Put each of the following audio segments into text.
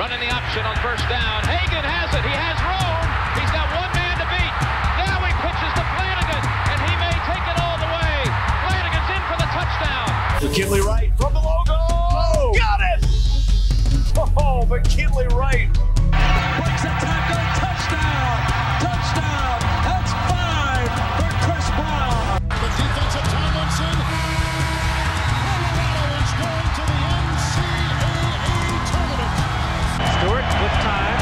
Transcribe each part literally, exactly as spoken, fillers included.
Running the option on first down. Hagan has it. He has room. He's got one man to beat. Now he pitches to Flanagan, and he may take it all the way. Flanagan's in for the touchdown. McKinley Wright from the logo. Oh, got it! Oh, McKinley Wright. Breaks a tackle. Touchdown. Touchdown. That's five for Chris Brown. The defensive Tomlinson. Colorado is going to the N C double A tournament. Stewart with time.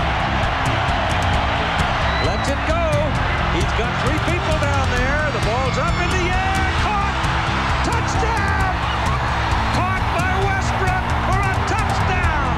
Lets it go. He's got three people down there. The ball's up in the air. Caught. Touchdown. Caught by Westbrook for a touchdown.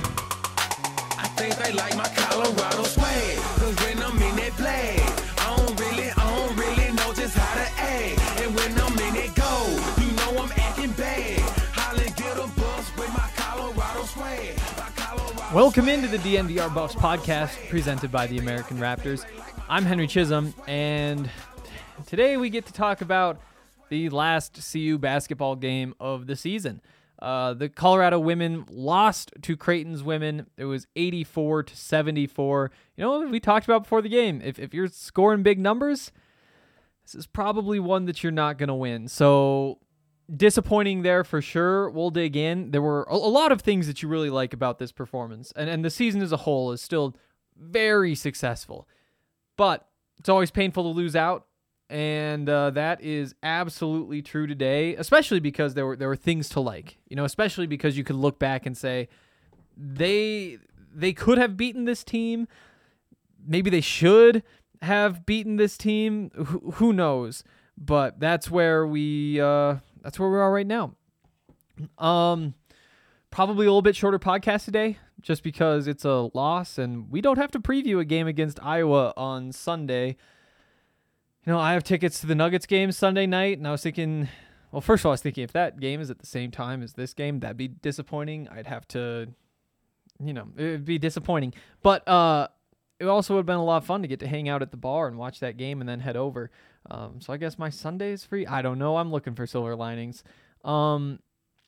I think they like my Colorado swag. Cause when I'm in that play, I don't really, I don't really know just how to act. And when I'm in it go, you know I'm acting bad. Holly get a bus with my Colorado swag. My Colorado Welcome into the D N V R Buffs podcast presented by the American Raptors. I'm Henry Chisholm, and today we get to talk about the last C U basketball game of the season. Uh, the Colorado women lost to Creighton's women. It was eighty-four to seventy-four. You know what we talked about before the game? If if you're scoring big numbers, this is probably one that you're not going to win. So disappointing there for sure. We'll dig in. There were a, a lot of things that you really like about this performance, and, and the season as a whole is still very successful. But it's always painful to lose out, and uh, that is absolutely true today, especially because there were there were things to like. You know, especially because you could look back and say they they could have beaten this team. Maybe they should have beaten this team. Who, who knows? But that's where we uh, that's where we are right now. Um, probably a little bit shorter podcast today, just because it's a loss and we don't have to preview a game against Iowa on Sunday. You know, I have tickets to the Nuggets game Sunday night, and I was thinking, well, first of all, I was thinking if that game is at the same time as this game, that'd be disappointing. I'd have to, you know, it'd be disappointing. But uh, it also would have been a lot of fun to get to hang out at the bar and watch that game and then head over. Um, so I guess my Sunday is free. I don't know. I'm looking for silver linings. Um,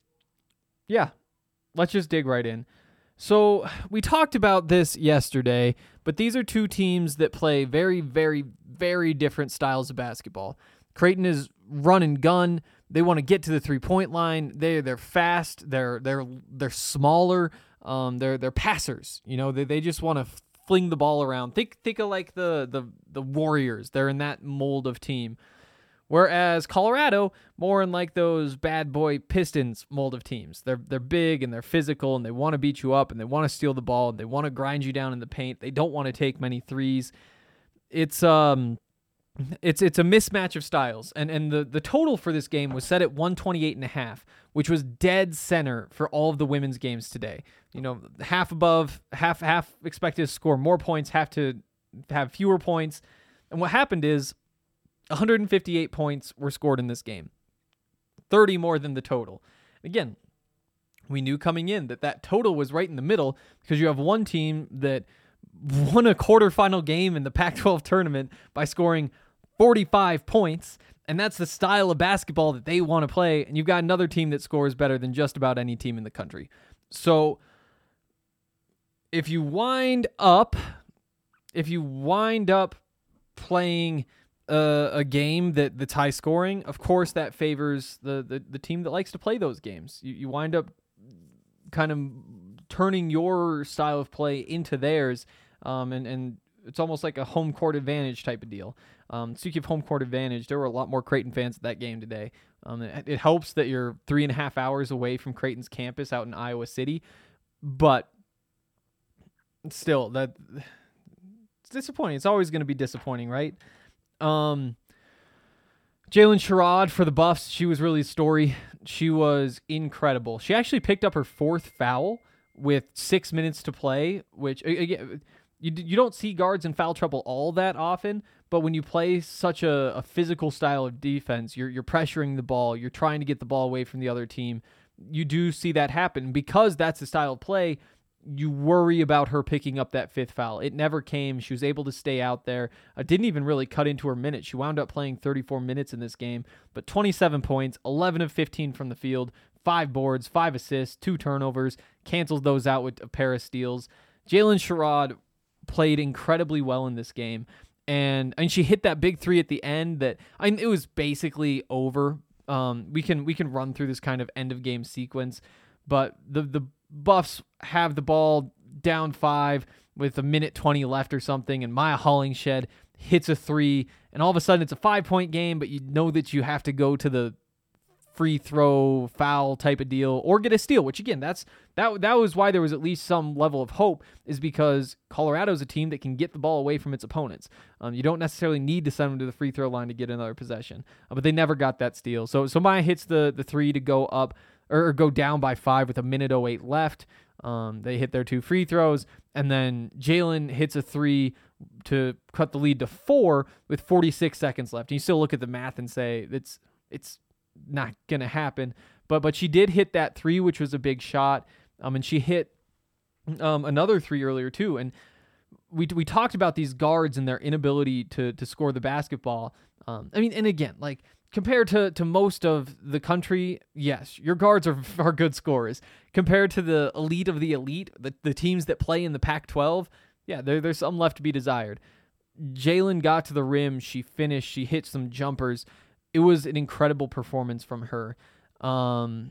yeah, let's just dig right in. So we talked about this yesterday, but these are two teams that play very, very, very different styles of basketball. Creighton is run and gun. They want to get to the three-point line. They they're fast. They're they're they're smaller. Um, they're they're passers. You know, they they just want to fling the ball around. Think think of like the the the Warriors. They're in that mold of team. Whereas Colorado, more in like those bad boy Pistons mold of teams. They're they're big and they're physical and they want to beat you up and they want to steal the ball and they want to grind you down in the paint. They don't want to take many threes. It's um it's it's a mismatch of styles. And and the, the total for this game was set at one twenty-eight and a half, which was dead center for all of the women's games today. You know, half above, half half expected to score more points, have to have fewer points. And what happened is one hundred fifty-eight points were scored in this game, thirty more than the total. Again, we knew coming in that that total was right in the middle because you have one team that won a quarterfinal game in the Pac twelve tournament by scoring forty-five points, and that's the style of basketball that they want to play, and you've got another team that scores better than just about any team in the country. So if you wind up, if you wind up playing Uh, a game that that's high scoring, of course that favors the, the, the team that likes to play those games. You, you wind up kind of turning your style of play into theirs, um, and, and it's almost like a home court advantage type of deal. Um, speaking of home court advantage, there were a lot more Creighton fans at that game today. Um, it, it helps that you're three and a half hours away from Creighton's campus out in Iowa City, but still, that it's disappointing. It's always going to be disappointing, right? Um, Jalen Sherrod for the Buffs, she was really a story. She was incredible. She actually picked up her fourth foul with six minutes to play, which, again, you you don't see guards in foul trouble all that often, but when you play such a, a physical style of defense, you're you're pressuring the ball, you're trying to get the ball away from the other team, you do see that happen. Because that's the style of play, you worry about her picking up that fifth foul. It never came. She was able to stay out there. Uh, didn't even really cut into her minutes. She wound up playing thirty-four minutes in this game, but twenty-seven points, eleven of fifteen from the field, five boards, five assists, two turnovers, cancels those out with a pair of steals. Jalen Sherrod played incredibly well in this game. And and she hit that big three at the end that I mean, it was basically over. Um, we can we can run through this kind of end of game sequence, but the the Buffs have the ball down five with a minute twenty left or something, and Maya Hollingshed hits a three, and all of a sudden it's a five point game, but you know that you have to go to the free throw foul type of deal or get a steal, which again, that's that that was why there was at least some level of hope, is because Colorado's a team that can get the ball away from its opponents. Um, you don't necessarily need to send them to the free throw line to get another possession, uh, but they never got that steal. So so Maya hits the the three to go up or, or go down by five with a minute oh eight left. Um, they hit their two free throws, and then Jalen hits a three to cut the lead to four with forty-six seconds left. And you still look at the math and say it's it's not gonna happen, but but she did hit that three, which was a big shot. Um, and she hit um another three earlier too. And we we talked about these guards and their inability to to score the basketball. Um, I mean, and again, like compared to to most of the country, yes, your guards are are good scorers. Compared to the elite of the elite, the the teams that play in the Pac twelve, yeah, there there's some left to be desired. Jalen got to the rim, she finished, she hit some jumpers. It was an incredible performance from her. Um,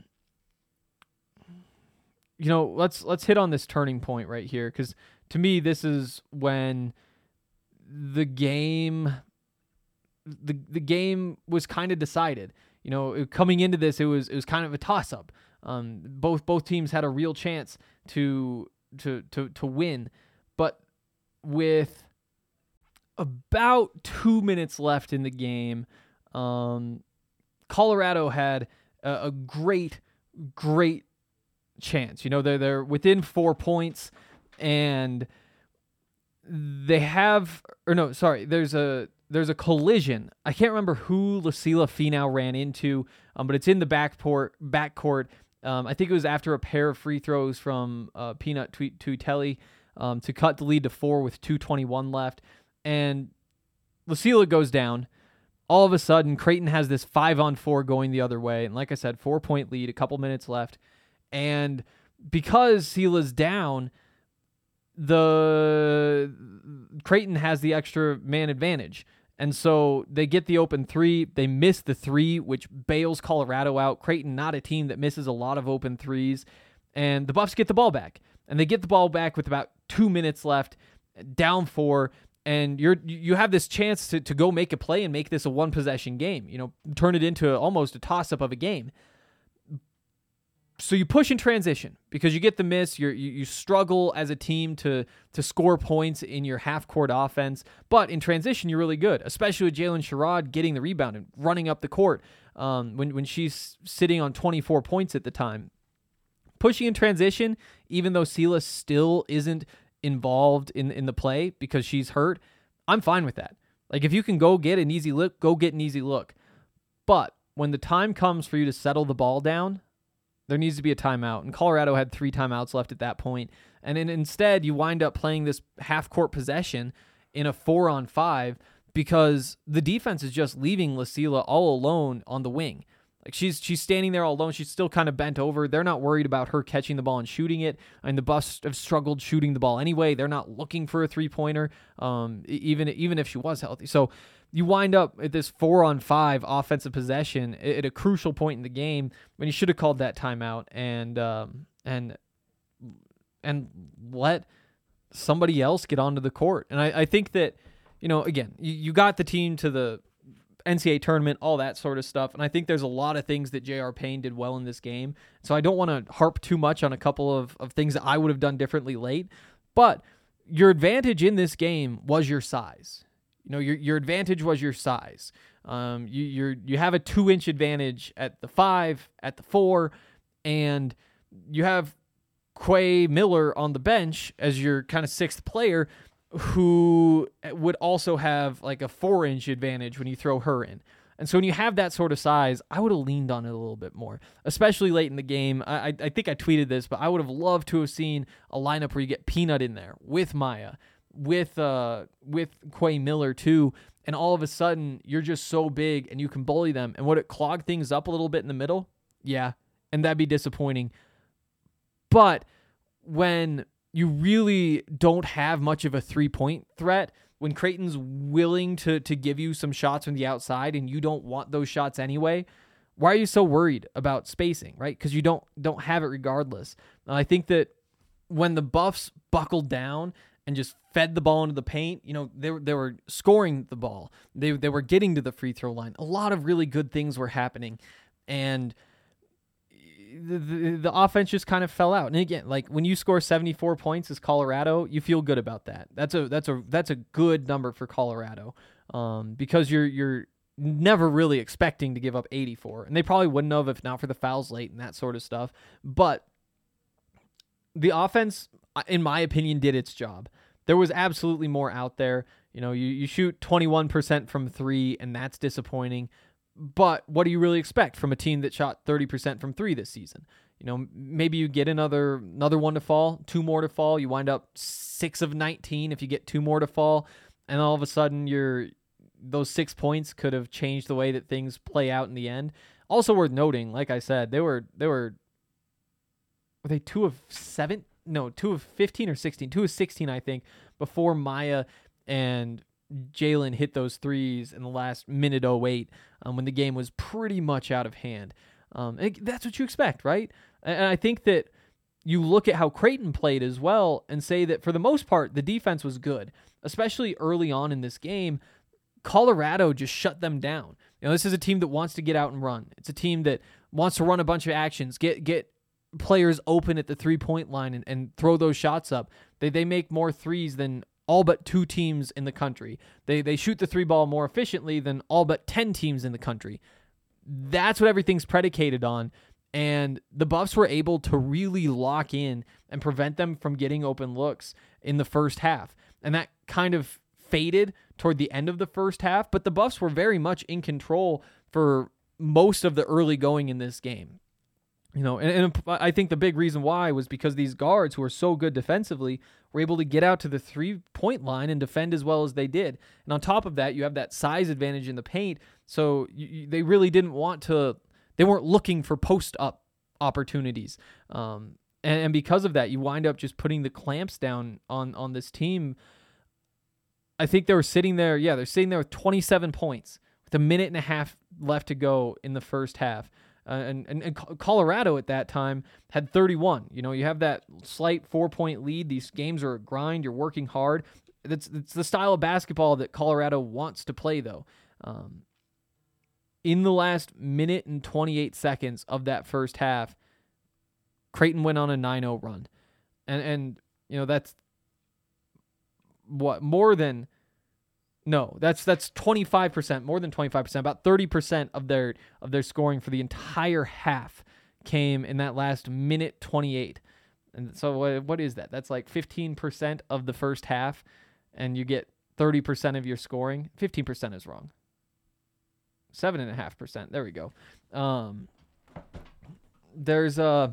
you know, let's let's hit on this turning point right here, because to me, this is when the game, the the game was kind of decided. You know, it, coming into this, it was it was kind of a toss up. Um, both both teams had a real chance to to to to win, but with about two minutes left in the game, Um, Colorado had a, a great, great chance. You know, they're they're within four points, and they have, or no, sorry, there's a there's a collision. I can't remember who Lucila Finau ran into, um, but it's in the backport backcourt. Um, I think it was after a pair of free throws from uh, Peanut Tuitelli um, to cut the lead to four with two twenty-one left, and Lucila goes down. All of a sudden, Creighton has this five on four going the other way. And like I said, four point lead, a couple minutes left. And because Sela's down, the Creighton has the extra man advantage. And so they get the open three. They miss the three, which bails Colorado out. Creighton, not a team that misses a lot of open threes. And the Buffs get the ball back. And they get the ball back with about two minutes left, down four. And you're you have this chance to, to go make a play and make this a one-possession game. You know, turn it into a, almost a toss-up of a game. So you push in transition because you get the miss. You're, you you struggle as a team to to score points in your half-court offense. But in transition, you're really good, especially with Jalen Sherrod getting the rebound and running up the court um, when, when she's sitting on twenty-four points at the time. Pushing in transition, even though Sela still isn't involved in in the play because she's hurt, I'm fine with that. Like, if you can go get an easy look, go get an easy look. But when the time comes for you to settle the ball down, there needs to be a timeout. And Colorado had three timeouts left at that point. And then instead, you wind up playing this half-court possession in a four-on-five because the defense is just leaving Lucila all alone on the wing. Like, she's she's standing there all alone. She's still kind of bent over. They're not worried about her catching the ball and shooting it. And the Buffs have struggled shooting the ball anyway. They're not looking for a three-pointer, um, even, even if she was healthy. So you wind up at this four-on-five offensive possession at a crucial point in the game when you should have called that timeout and um, and and let somebody else get onto the court. And I, I think that, you know, again, you, you got the team to the N C double A tournament, all that sort of stuff. And I think there's a lot of things that J R. Payne did well in this game. So I don't want to harp too much on a couple of, of things that I would have done differently late. But your advantage in this game was your size. You know, your your advantage was your size. Um, you you're you have a two inch advantage at the five, at the four, and you have Quay Miller on the bench as your kind of sixth player, who would also have like a four inch advantage when you throw her in. And so when you have that sort of size, I would have leaned on it a little bit more, especially late in the game. I I think I tweeted this, but I would have loved to have seen a lineup where you get Peanut in there with Maya, with uh with Quay Miller too, and all of a sudden you're just so big and you can bully them. And would it clog things up a little bit in the middle? Yeah, and that'd be disappointing. But when you really don't have much of a three-point threat. When Creighton's willing to to give you some shots from the outside and you don't want those shots anyway, why are you so worried about spacing, right? Because you don't don't have it regardless. And I think that when the Buffs buckled down and just fed the ball into the paint, you know, they, they were scoring the ball. They, they were getting to the free throw line. A lot of really good things were happening. And the, the, the offense just kind of fell out. And again, like when you score seventy-four points as Colorado, you feel good about that. That's a that's a that's a good number for Colorado, um, because you're you're never really expecting to give up eighty-four, and they probably wouldn't have if not for the fouls late and that sort of stuff. But the offense, in my opinion, did its job. There was absolutely more out there. You know, you, you shoot twenty-one percent from three, and that's disappointing. But what do you really expect from a team that shot thirty percent from three this season? You know, maybe you get another another one to fall, two more to fall. You wind up six of nineteen if you get two more to fall, and all of a sudden you're those six points could have changed the way that things play out in the end. Also worth noting, like I said, they were they were were they two of seven? No, two of fifteen or sixteen. Two of sixteen, I think, before Maya and Jalen hit those threes in the last minute oh eight, um, when the game was pretty much out of hand. Um, and that's what you expect, right? And I think that you look at how Creighton played as well and say that for the most part, the defense was good, especially early on in this game. Colorado just shut them down. You know, this is a team that wants to get out and run. It's a team that wants to run a bunch of actions, get get players open at the three-point line and, and throw those shots up. They they make more threes than all but two teams in the country. They they shoot the three ball more efficiently than all but ten teams in the country. That's what everything's predicated on. And the Buffs were able to really lock in and prevent them from getting open looks in the first half. And that kind of faded toward the end of the first half, but the Buffs were very much in control for most of the early going in this game. You know, and, and I think the big reason why was because these guards who are so good defensively were able to get out to the three-point line and defend as well as they did. And on top of that, you have that size advantage in the paint, so you, you, they really didn't want to, they weren't looking for post-up opportunities. Um, and, and because of that, you wind up just putting the clamps down on, on this team. I think they were sitting there, yeah, they're sitting there with twenty-seven points with a minute and a half left to go in the first half. Uh, and, and, and Colorado at that time had thirty-one. You know, you have that slight four-point lead. These games are a grind. You're working hard. That's, that's the style of basketball that Colorado wants to play, though. Um, in the last minute and twenty-eight seconds of that first half, Creighton went on a nine oh run. And, and you know, that's what, more than... No, that's that's twenty-five percent, more than twenty-five percent, about thirty percent of their of their scoring for the entire half came in that last minute twenty-eight. And so what, what is that? That's like fifteen percent of the first half, and you get thirty percent of your scoring. fifteen percent is wrong. seven point five percent. There we go. Um, there's a...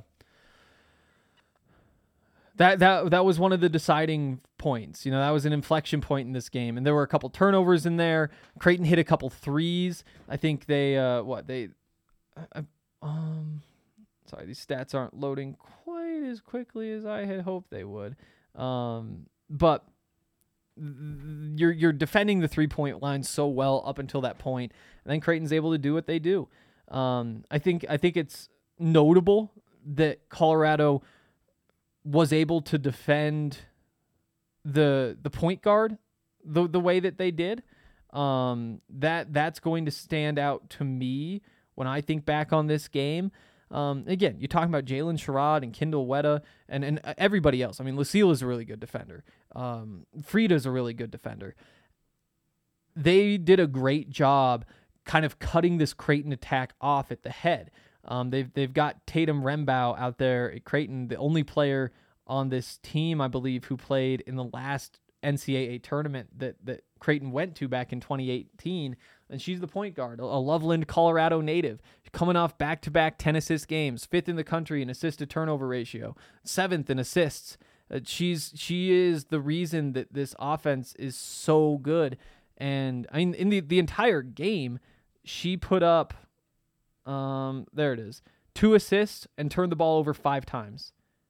That that that was one of the deciding points. You know, that was an inflection point in this game. And there were a couple turnovers in there. Creighton hit a couple threes. I think they, uh, what, they, uh, um, sorry, these stats aren't loading quite as quickly as I had hoped they would. Um, but you're you're defending the three-point line so well up until that point, and then Creighton's able to do what they do. Um, I think I think it's notable that Colorado was able to defend the the point guard the the way that they did. Um, that that's going to stand out to me when I think back on this game. Um, again, you're talking about Jalen Sherrod and Kendall Wetta and, and everybody else. I mean, Lucille is a really good defender. Um, Frida's a really good defender. They did a great job kind of cutting this Creighton attack off at the head. Um, they've they've got Tatum Rembow out there at Creighton, the only player on this team, I believe, who played in the last N C double A tournament that, that Creighton went to back in twenty eighteen, and she's the point guard, a Loveland, Colorado native, coming off back-to-back ten assist games, fifth in the country in assist-to-turnover ratio, seventh in assists. Uh, she's she is the reason that this offense is so good, and I mean, in the, the entire game, she put up, um, there it is, two assists and turned the ball over five times.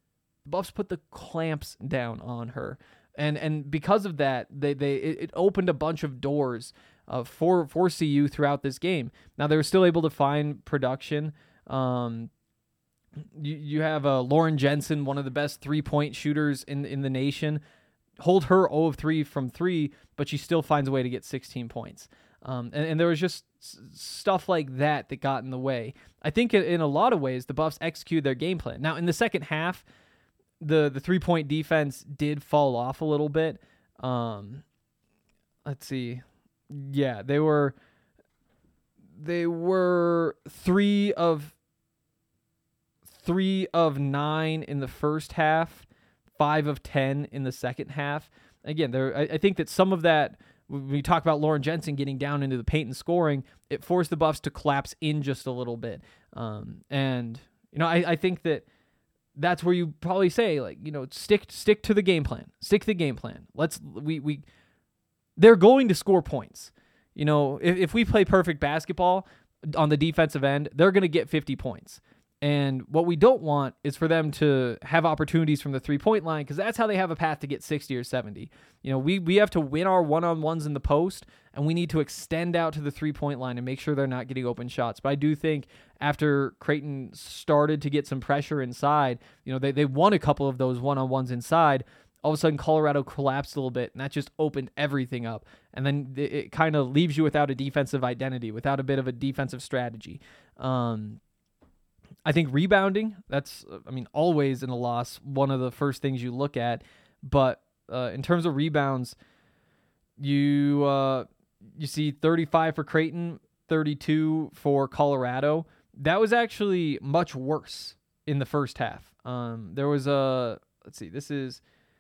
the Buffs put the clamps down on her. And and because of that, they they it, it opened a bunch of doors uh, for for C U throughout this game. Now they were still able to find production. Um, you you have uh, Lauren Jensen, one of the best three point shooters in in the nation, hold her zero of three from three, but she still finds a way to get sixteen points. Um, and, and there was just s- stuff like that that got in the way. I think in, in a lot of ways the Buffs executed their game plan. Now in the second half, the the three-point defense did fall off a little bit. Um, let's see. Yeah, they were they were three of three of nine in the first half, five of ten in the second half. Again, there I, I think that some of that, when we talk about Lauren Jensen getting down into the paint and scoring, it forced the Buffs to collapse in just a little bit. Um, and you know, I, I think that that's where you probably say, like, you know, stick stick to the game plan. Stick to the game plan. Let's we we they're going to score points. You know, if, if we play perfect basketball on the defensive end, they're going to get fifty points. And what we don't want is for them to have opportunities from the three-point line, because that's how they have a path to get sixty or seventy. You know, we we have to win our one-on-ones in the post, and we need to extend out to the three-point line and make sure they're not getting open shots. But I do think after Creighton started to get some pressure inside, you know, they, they won a couple of those one-on-ones inside. All of a sudden, Colorado collapsed a little bit, and that just opened everything up. And then it, it kind of leaves you without a defensive identity, without a bit of a defensive strategy. Um I think rebounding, that's, I mean, always in a loss, one of the first things you look at. But uh, in terms of rebounds, you uh, you see thirty-five for Creighton, thirty-two for Colorado. That was actually much worse in the first half. Um, there was a, let's see, this is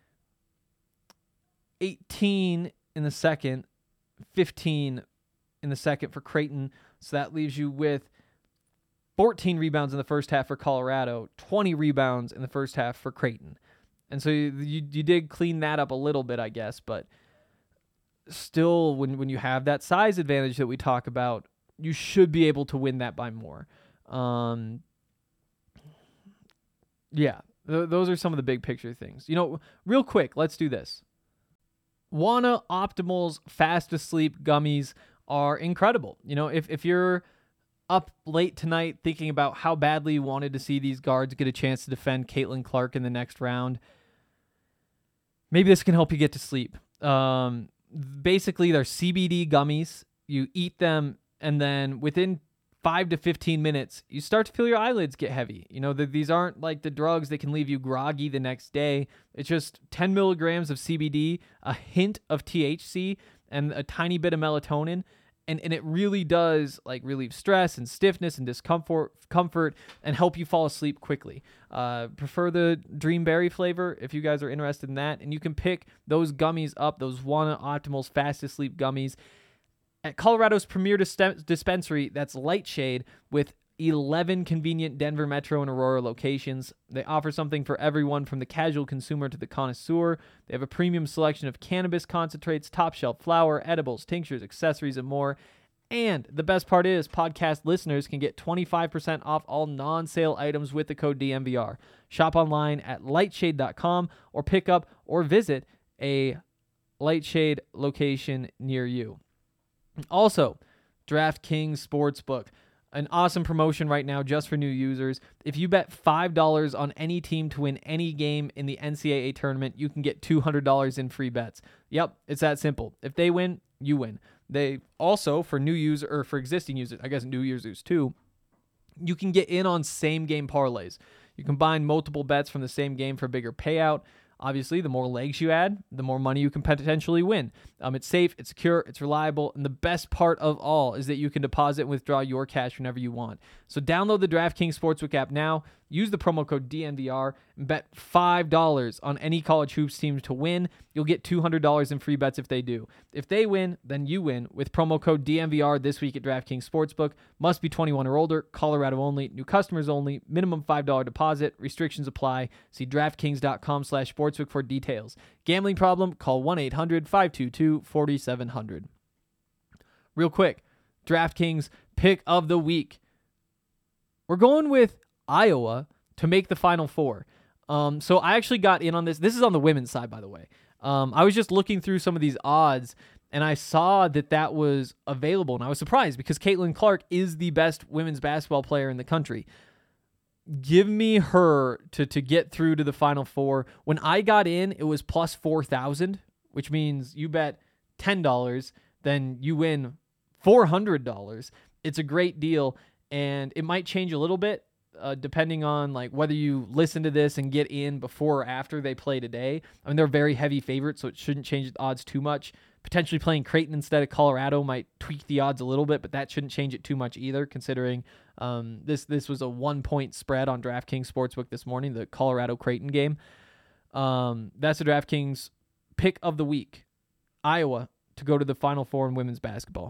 eighteen in the second, fifteen in the second for Creighton. So that leaves you with fourteen rebounds in the first half for Colorado, twenty rebounds in the first half for Creighton. And so you, you you did clean that up a little bit, I guess, but still, when, when you have that size advantage that we talk about, you should be able to win that by more. Um, yeah, th- those are some of the big picture things. You know, real quick, let's do this. Wana Optimal's Fast Asleep gummies are incredible. You know, if if you're up late tonight thinking about how badly you wanted to see these guards get a chance to defend Caitlin Clark in the next round, maybe this can help you get to sleep. Um, basically, they're C B D gummies. You eat them, and then within five to fifteen minutes, you start to feel your eyelids get heavy. You know, the, these aren't like the drugs that can leave you groggy the next day. It's just ten milligrams of C B D, a hint of T H C, and a tiny bit of melatonin. And and it really does like relieve stress and stiffness and discomfort comfort and help you fall asleep quickly. Uh, prefer the Dreamberry flavor if you guys are interested in that. And you can pick those gummies up, those Wana Optimal's Fast Asleep gummies, at Colorado's premier dis- dispensary, that's Lightshade, with eleven convenient Denver Metro and Aurora locations. They offer something for everyone from the casual consumer to the connoisseur. They have a premium selection of cannabis concentrates, top shelf flower, edibles, tinctures, accessories, and more. And the best part is podcast listeners can get twenty-five percent off all non-sale items with the code D M V R. Shop online at lightshade dot com or pick up or visit a Lightshade location near you. Also, DraftKings Sportsbook. An awesome promotion right now just for new users. If you bet five dollars on any team to win any game in the N C double A tournament, you can get two hundred dollars in free bets. Yep, it's that simple. If they win, you win. They also, for new users, or for existing users, I guess new users too, you can get in on same game parlays. You combine multiple bets from the same game for a bigger payout. Obviously, the more legs you add, the more money you can potentially win. Um, it's safe, it's secure, it's reliable, and the best part of all is that you can deposit and withdraw your cash whenever you want. So download the DraftKings Sportsbook app now, use the promo code D N V R, and bet five dollars on any college hoops team to win. You'll get two hundred dollars in free bets if they do. If they win, then you win with promo code D N V R this week at DraftKings Sportsbook. Must be twenty-one or older, Colorado only, new customers only, minimum five dollars deposit, restrictions apply. See DraftKings dot com slash sportsbook for details. Gambling problem? Call one eight hundred five two two four seven zero zero. Real quick, DraftKings pick of the week. We're going with Iowa to make the Final Four. Um, so I actually got in on this. This is on the women's side, by the way. Um, I was just looking through some of these odds, and I saw that that was available, and I was surprised because Caitlin Clark is the best women's basketball player in the country. Give me her to to get through to the Final Four. When I got in, it was plus four thousand, which means you bet ten dollars, then you win four hundred dollars. It's a great deal, and it might change a little bit uh, depending on like whether you listen to this and get in before or after they play today. I mean, they're very heavy favorites, so it shouldn't change the odds too much. Potentially playing Creighton instead of Colorado might tweak the odds a little bit, but that shouldn't change it too much either, considering um, this this was a one-point spread on DraftKings Sportsbook this morning, the Colorado-Creighton game. Um, that's the DraftKings pick of the week. Iowa to go to the Final Four in women's basketball.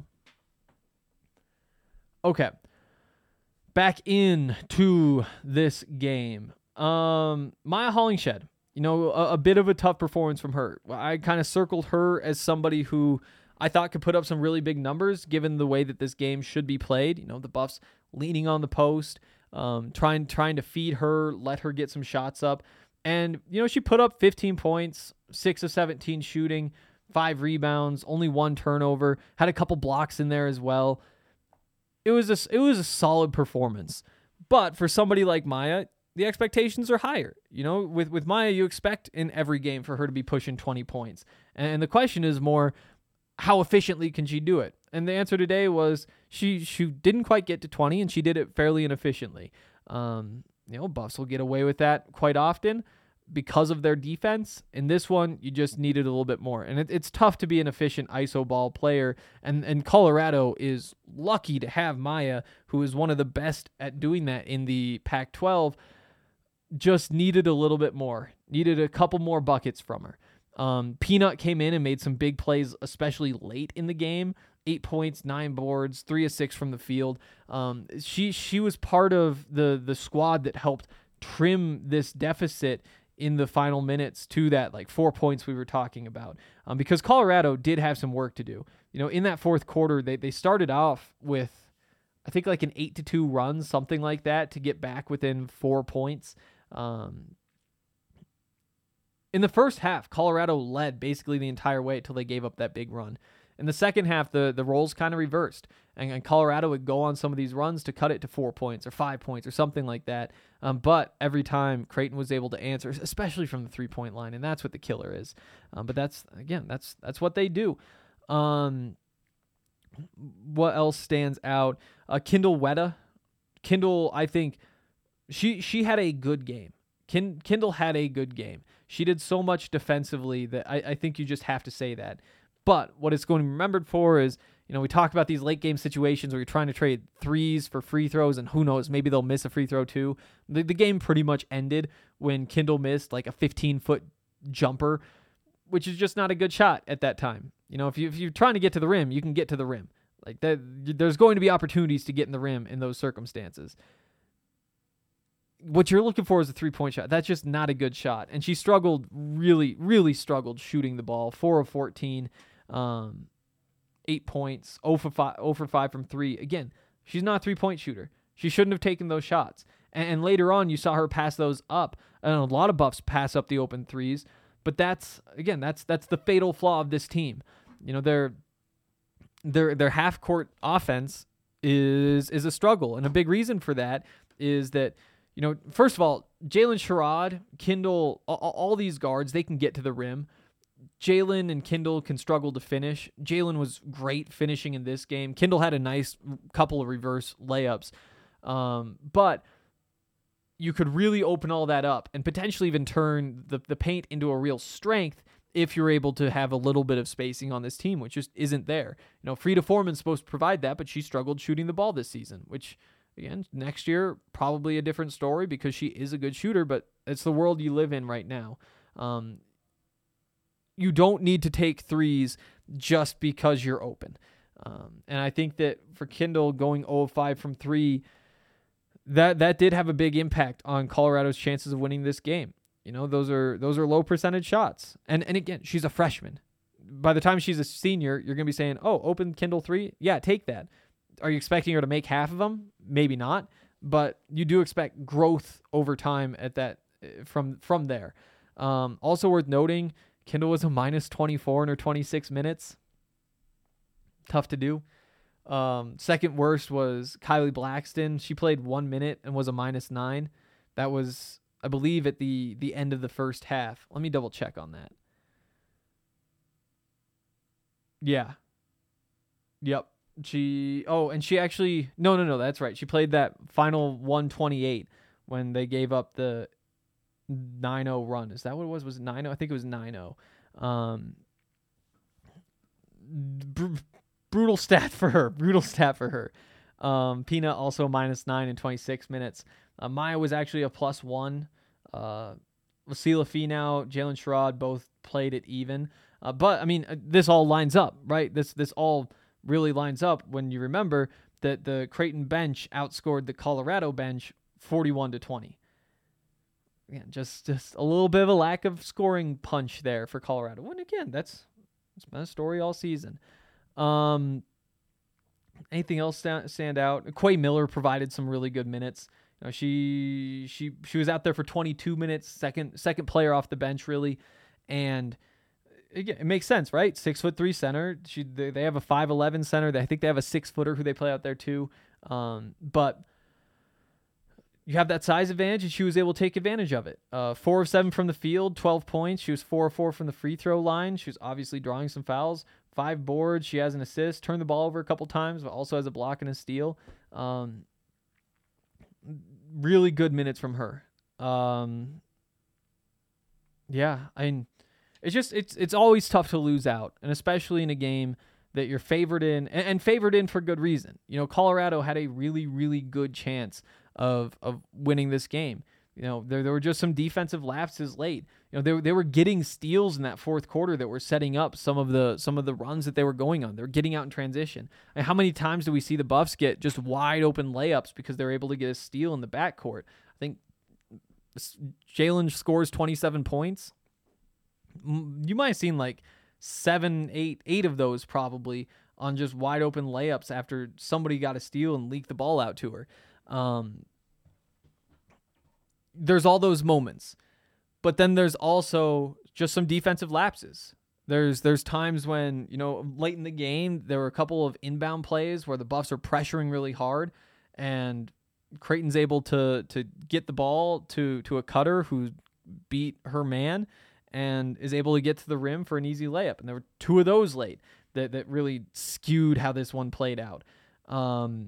Okay. Back into this game. Um, Maya Hollingshed. You know, a, a bit of a tough performance from her. I kind of circled her as somebody who I thought could put up some really big numbers given the way that this game should be played. You know, the Buffs leaning on the post, um, trying trying to feed her, let her get some shots up. And, you know, she put up fifteen points, six of seventeen shooting, five rebounds, only one turnover, had a couple blocks in there as well. It was a, it was a solid performance. But for somebody like Maya, the expectations are higher. You know, with, with Maya, you expect in every game for her to be pushing twenty points. And the question is more, how efficiently can she do it? And the answer today was she she didn't quite get to twenty, and she did it fairly inefficiently. Um, you know, Buffs will get away with that quite often because of their defense. In this one, you just needed a little bit more. And it, it's tough to be an efficient I S O ball player. And, and Colorado is lucky to have Maya, who is one of the best at doing that in the Pac twelve. Just needed a little bit more. Needed a couple more buckets from her. Um, Peanut came in and made some big plays, especially late in the game. Eight points, nine boards, three of six from the field. Um, she she was part of the the squad that helped trim this deficit in the final minutes to that like four points we were talking about. Um, because Colorado did have some work to do. You know, in that fourth quarter, they they started off with, I think like an eight to two run, something like that, to get back within four points. Um, in the first half, Colorado led basically the entire way until they gave up that big run. In the second half, the, the roles kind of reversed, and, and Colorado would go on some of these runs to cut it to four points or five points or something like that. Um, but every time Creighton was able to answer, especially from the three-point line, and that's what the killer is. Um, but that's, again, that's that's what they do. Um, what else stands out? Uh, Kindle Weta. Kindle, I think, she she had a good game. Kin, Kindle had a good game. She did so much defensively that I, I think you just have to say that. But what it's going to be remembered for is, you know, we talk about these late game situations where you're trying to trade threes for free throws, and who knows, maybe they'll miss a free throw too. The, the game pretty much ended when Kindle missed like a fifteen-foot jumper, which is just not a good shot at that time. You know, if, you, if you're trying to get to the rim, you can get to the rim. Like that, there's going to be opportunities to get in the rim in those circumstances. What you're looking for is a three-point shot. That's just not a good shot. And she struggled, really, really struggled shooting the ball. four of fourteen, um, eight points, zero for five, zero for five from three. Again, she's not a three-point shooter. She shouldn't have taken those shots. And, and later on, you saw her pass those up. And a lot of Buffs pass up the open threes. But that's, again, that's that's the fatal flaw of this team. You know, their their their half-court offense is is a struggle. And a big reason for that is that, you know, first of all, Jalen Sherrod, Kindle, all, all these guards, they can get to the rim. Jalen and Kindle can struggle to finish. Jalen was great finishing in this game. Kindle had a nice couple of reverse layups. Um, but you could really open all that up and potentially even turn the, the paint into a real strength if you're able to have a little bit of spacing on this team, which just isn't there. You know, Frida Foreman's supposed to provide that, but she struggled shooting the ball this season, which, again, next year, probably a different story because she is a good shooter, but it's the world you live in right now. Um, you don't need to take threes just because you're open. Um, and I think that for Kindle going zero of five from three, that that did have a big impact on Colorado's chances of winning this game. You know, those are those are low percentage shots. And and again, she's a freshman. By the time she's a senior, you're going to be saying, oh, open Kindle three? Yeah, take that. Are you expecting her to make half of them? Maybe not. But you do expect growth over time at that from from there. Um, also worth noting, Kendall was a minus twenty-four in her twenty-six minutes. Tough to do. Um, second worst was Kylie Blackston. She played one minute and was a minus nine. That was, I believe, at the the end of the first half. Let me double check on that. Yeah. Yep. She, oh, and she actually, no, no, no, that's right. She played that final one twenty-eight when they gave up the nine oh run. Is that what it was? Was it nine oh? I think it was nine oh. Um, br- brutal stat for her. Brutal stat for her. Um, Pina also minus nine in twenty-six minutes. Uh, Maya was actually a plus one. Uh, Wasila Finau, Jalen Sherrod both played it even. Uh, but, I mean, uh, this all lines up, right? This this all really lines up when you remember that the Creighton bench outscored the Colorado bench forty-one to twenty. Yeah, just just a little bit of a lack of scoring punch there for Colorado. And again, that's that's been a story all season. Um, anything else stand, stand out? Quay Miller provided some really good minutes. You know, she she she was out there for twenty-two minutes, second second player off the bench really, and again, it makes sense, right? Six foot three center. She they, they have a five eleven center. I think they have a six footer who they play out there too. Um, but you have that size advantage, and she was able to take advantage of it. Uh, four of seven from the field, twelve points. She was four of four from the free throw line. She was obviously drawing some fouls. Five boards. She has an assist. Turned the ball over a couple times, but also has a block and a steal. Um, really good minutes from her. Um, yeah, I mean, it's just it's it's always tough to lose out, and especially in a game that you're favored in, and, and favored in for good reason. You know, Colorado had a really, really good chance of of winning this game. You know, there there were just some defensive lapses late. You know, they they were getting steals in that fourth quarter that were setting up some of the some of the runs that they were going on. They're getting out in transition. And how many times do we see the Buffs get just wide open layups because they're able to get a steal in the backcourt? I think Jalen scores twenty-seven points. You might have seen like seven, eight, eight of those probably on just wide open layups after somebody got a steal and leaked the ball out to her. Um, there's all those moments, but then there's also just some defensive lapses. There's there's times when, you know, late in the game, there were a couple of inbound plays where the Buffs are pressuring really hard, and Creighton's able to to get the ball to to a cutter who beat her man and is able to get to the rim for an easy layup. And there were two of those late that, that really skewed how this one played out. Um,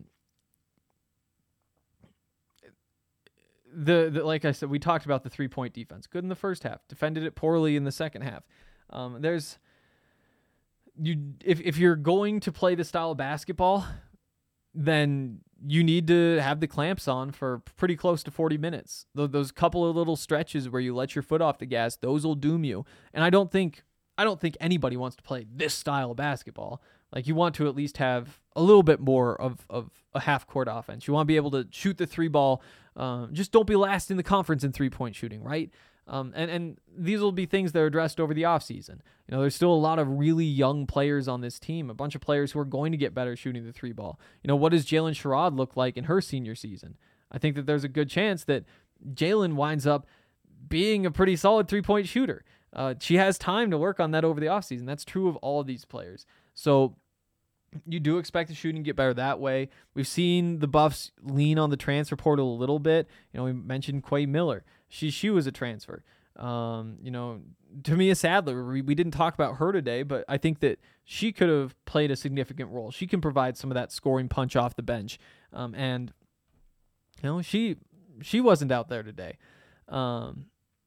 the, the like I said, we talked about the three-point defense. Good in the first half. Defended it poorly in the second half. Um, there's you if if you're going to play the style of basketball, then you need to have the clamps on for pretty close to forty minutes. Those couple of little stretches where you let your foot off the gas, those will doom you. And I don't think I don't think anybody wants to play this style of basketball. Like, you want to at least have a little bit more of, of a half-court offense. You want to be able to shoot the three ball. Um, just don't be last in the conference in three-point shooting, right? Um, and, and these will be things that are addressed over the offseason. You know, there's still a lot of really young players on this team, a bunch of players who are going to get better shooting the three ball. You know, what does Jalen Sherrod look like in her senior season? I think that there's a good chance that Jalen winds up being a pretty solid three-point shooter. Uh, she has time to work on that over the offseason. That's true of all of these players. So you do expect the shooting to get better that way. We've seen the Buffs lean on the transfer portal a little bit. You know, we mentioned Quay Miller. She she was a transfer. Um, you know, Tamia Sadler, we, we didn't talk about her today, but I think that she could have played a significant role. She can provide some of that scoring punch off the bench. Um, and, you know, she she wasn't out there today. Um,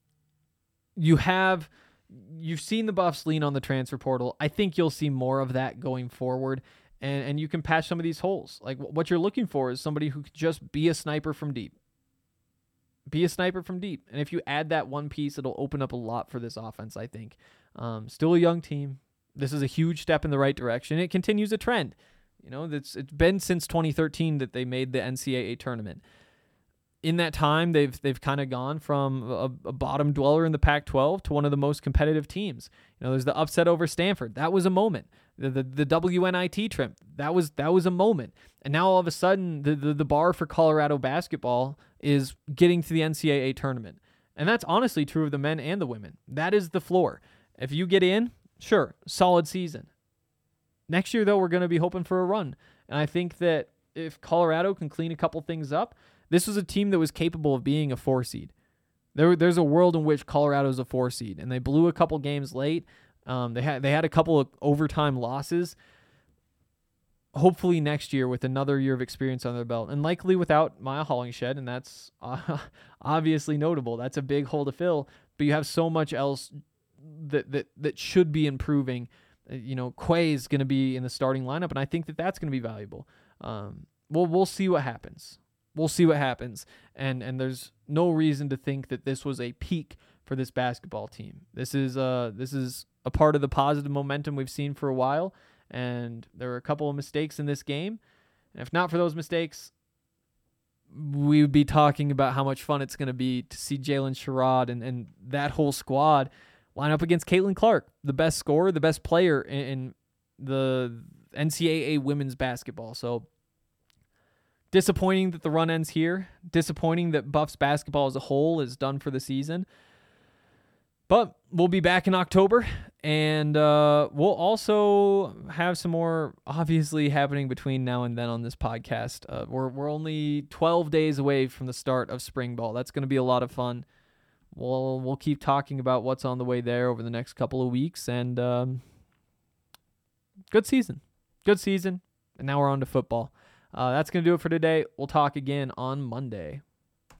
you have... You've seen the Buffs lean on the transfer portal. I think you'll see more of that going forward, and, and you can patch some of these holes. Like, what you're looking for is somebody who could just be a sniper from deep. Be a sniper from deep. And if you add that one piece, it'll open up a lot for this offense, I think. Um, still a young team. This is a huge step in the right direction. It continues a trend. You know, it's, it's been since twenty thirteen that they made the N C double A tournament. In that time, they've they've kind of gone from a, a bottom dweller in the Pac twelve to one of the most competitive teams. You know, there's the upset over Stanford. That was a moment. The the, the W N I T trip. That was that was a moment. And now all of a sudden, the, the the bar for Colorado basketball is getting to the N C double A tournament. And that's honestly true of the men and the women. That is the floor. If you get in, sure, solid season. Next year, though, we're going to be hoping for a run. And I think that if Colorado can clean a couple things up, this was a team that was capable of being a four seed. There, there's a world in which Colorado's a four seed, and they blew a couple games late. Um, they had they had a couple of overtime losses. Hopefully next year with another year of experience on their belt, and likely without Maya Hollingshed, and that's uh, obviously notable. That's a big hole to fill, but you have so much else that that that should be improving. You know, Quay is going to be in the starting lineup, and I think that that's going to be valuable. Um, well, we'll see what happens. We'll see what happens, and and there's no reason to think that this was a peak for this basketball team. This is uh this is a part of the positive momentum we've seen for a while, and there were a couple of mistakes in this game. And if not for those mistakes, we would be talking about how much fun it's going to be to see Jalen Sherrod and, and that whole squad line up against Caitlin Clark, the best scorer, the best player in, in the N C double A women's basketball. So disappointing that the run ends here. Disappointing that Buffs basketball as a whole is done for the season. But we'll be back in October, and uh, we'll also have some more obviously happening between now and then on this podcast. Uh, we're we're only twelve days away from the start of spring ball. That's going to be a lot of fun. We'll we'll keep talking about what's on the way there over the next couple of weeks, and um, good season, good season. And now we're on to football. Uh, that's going to do it for today. We'll talk again on Monday.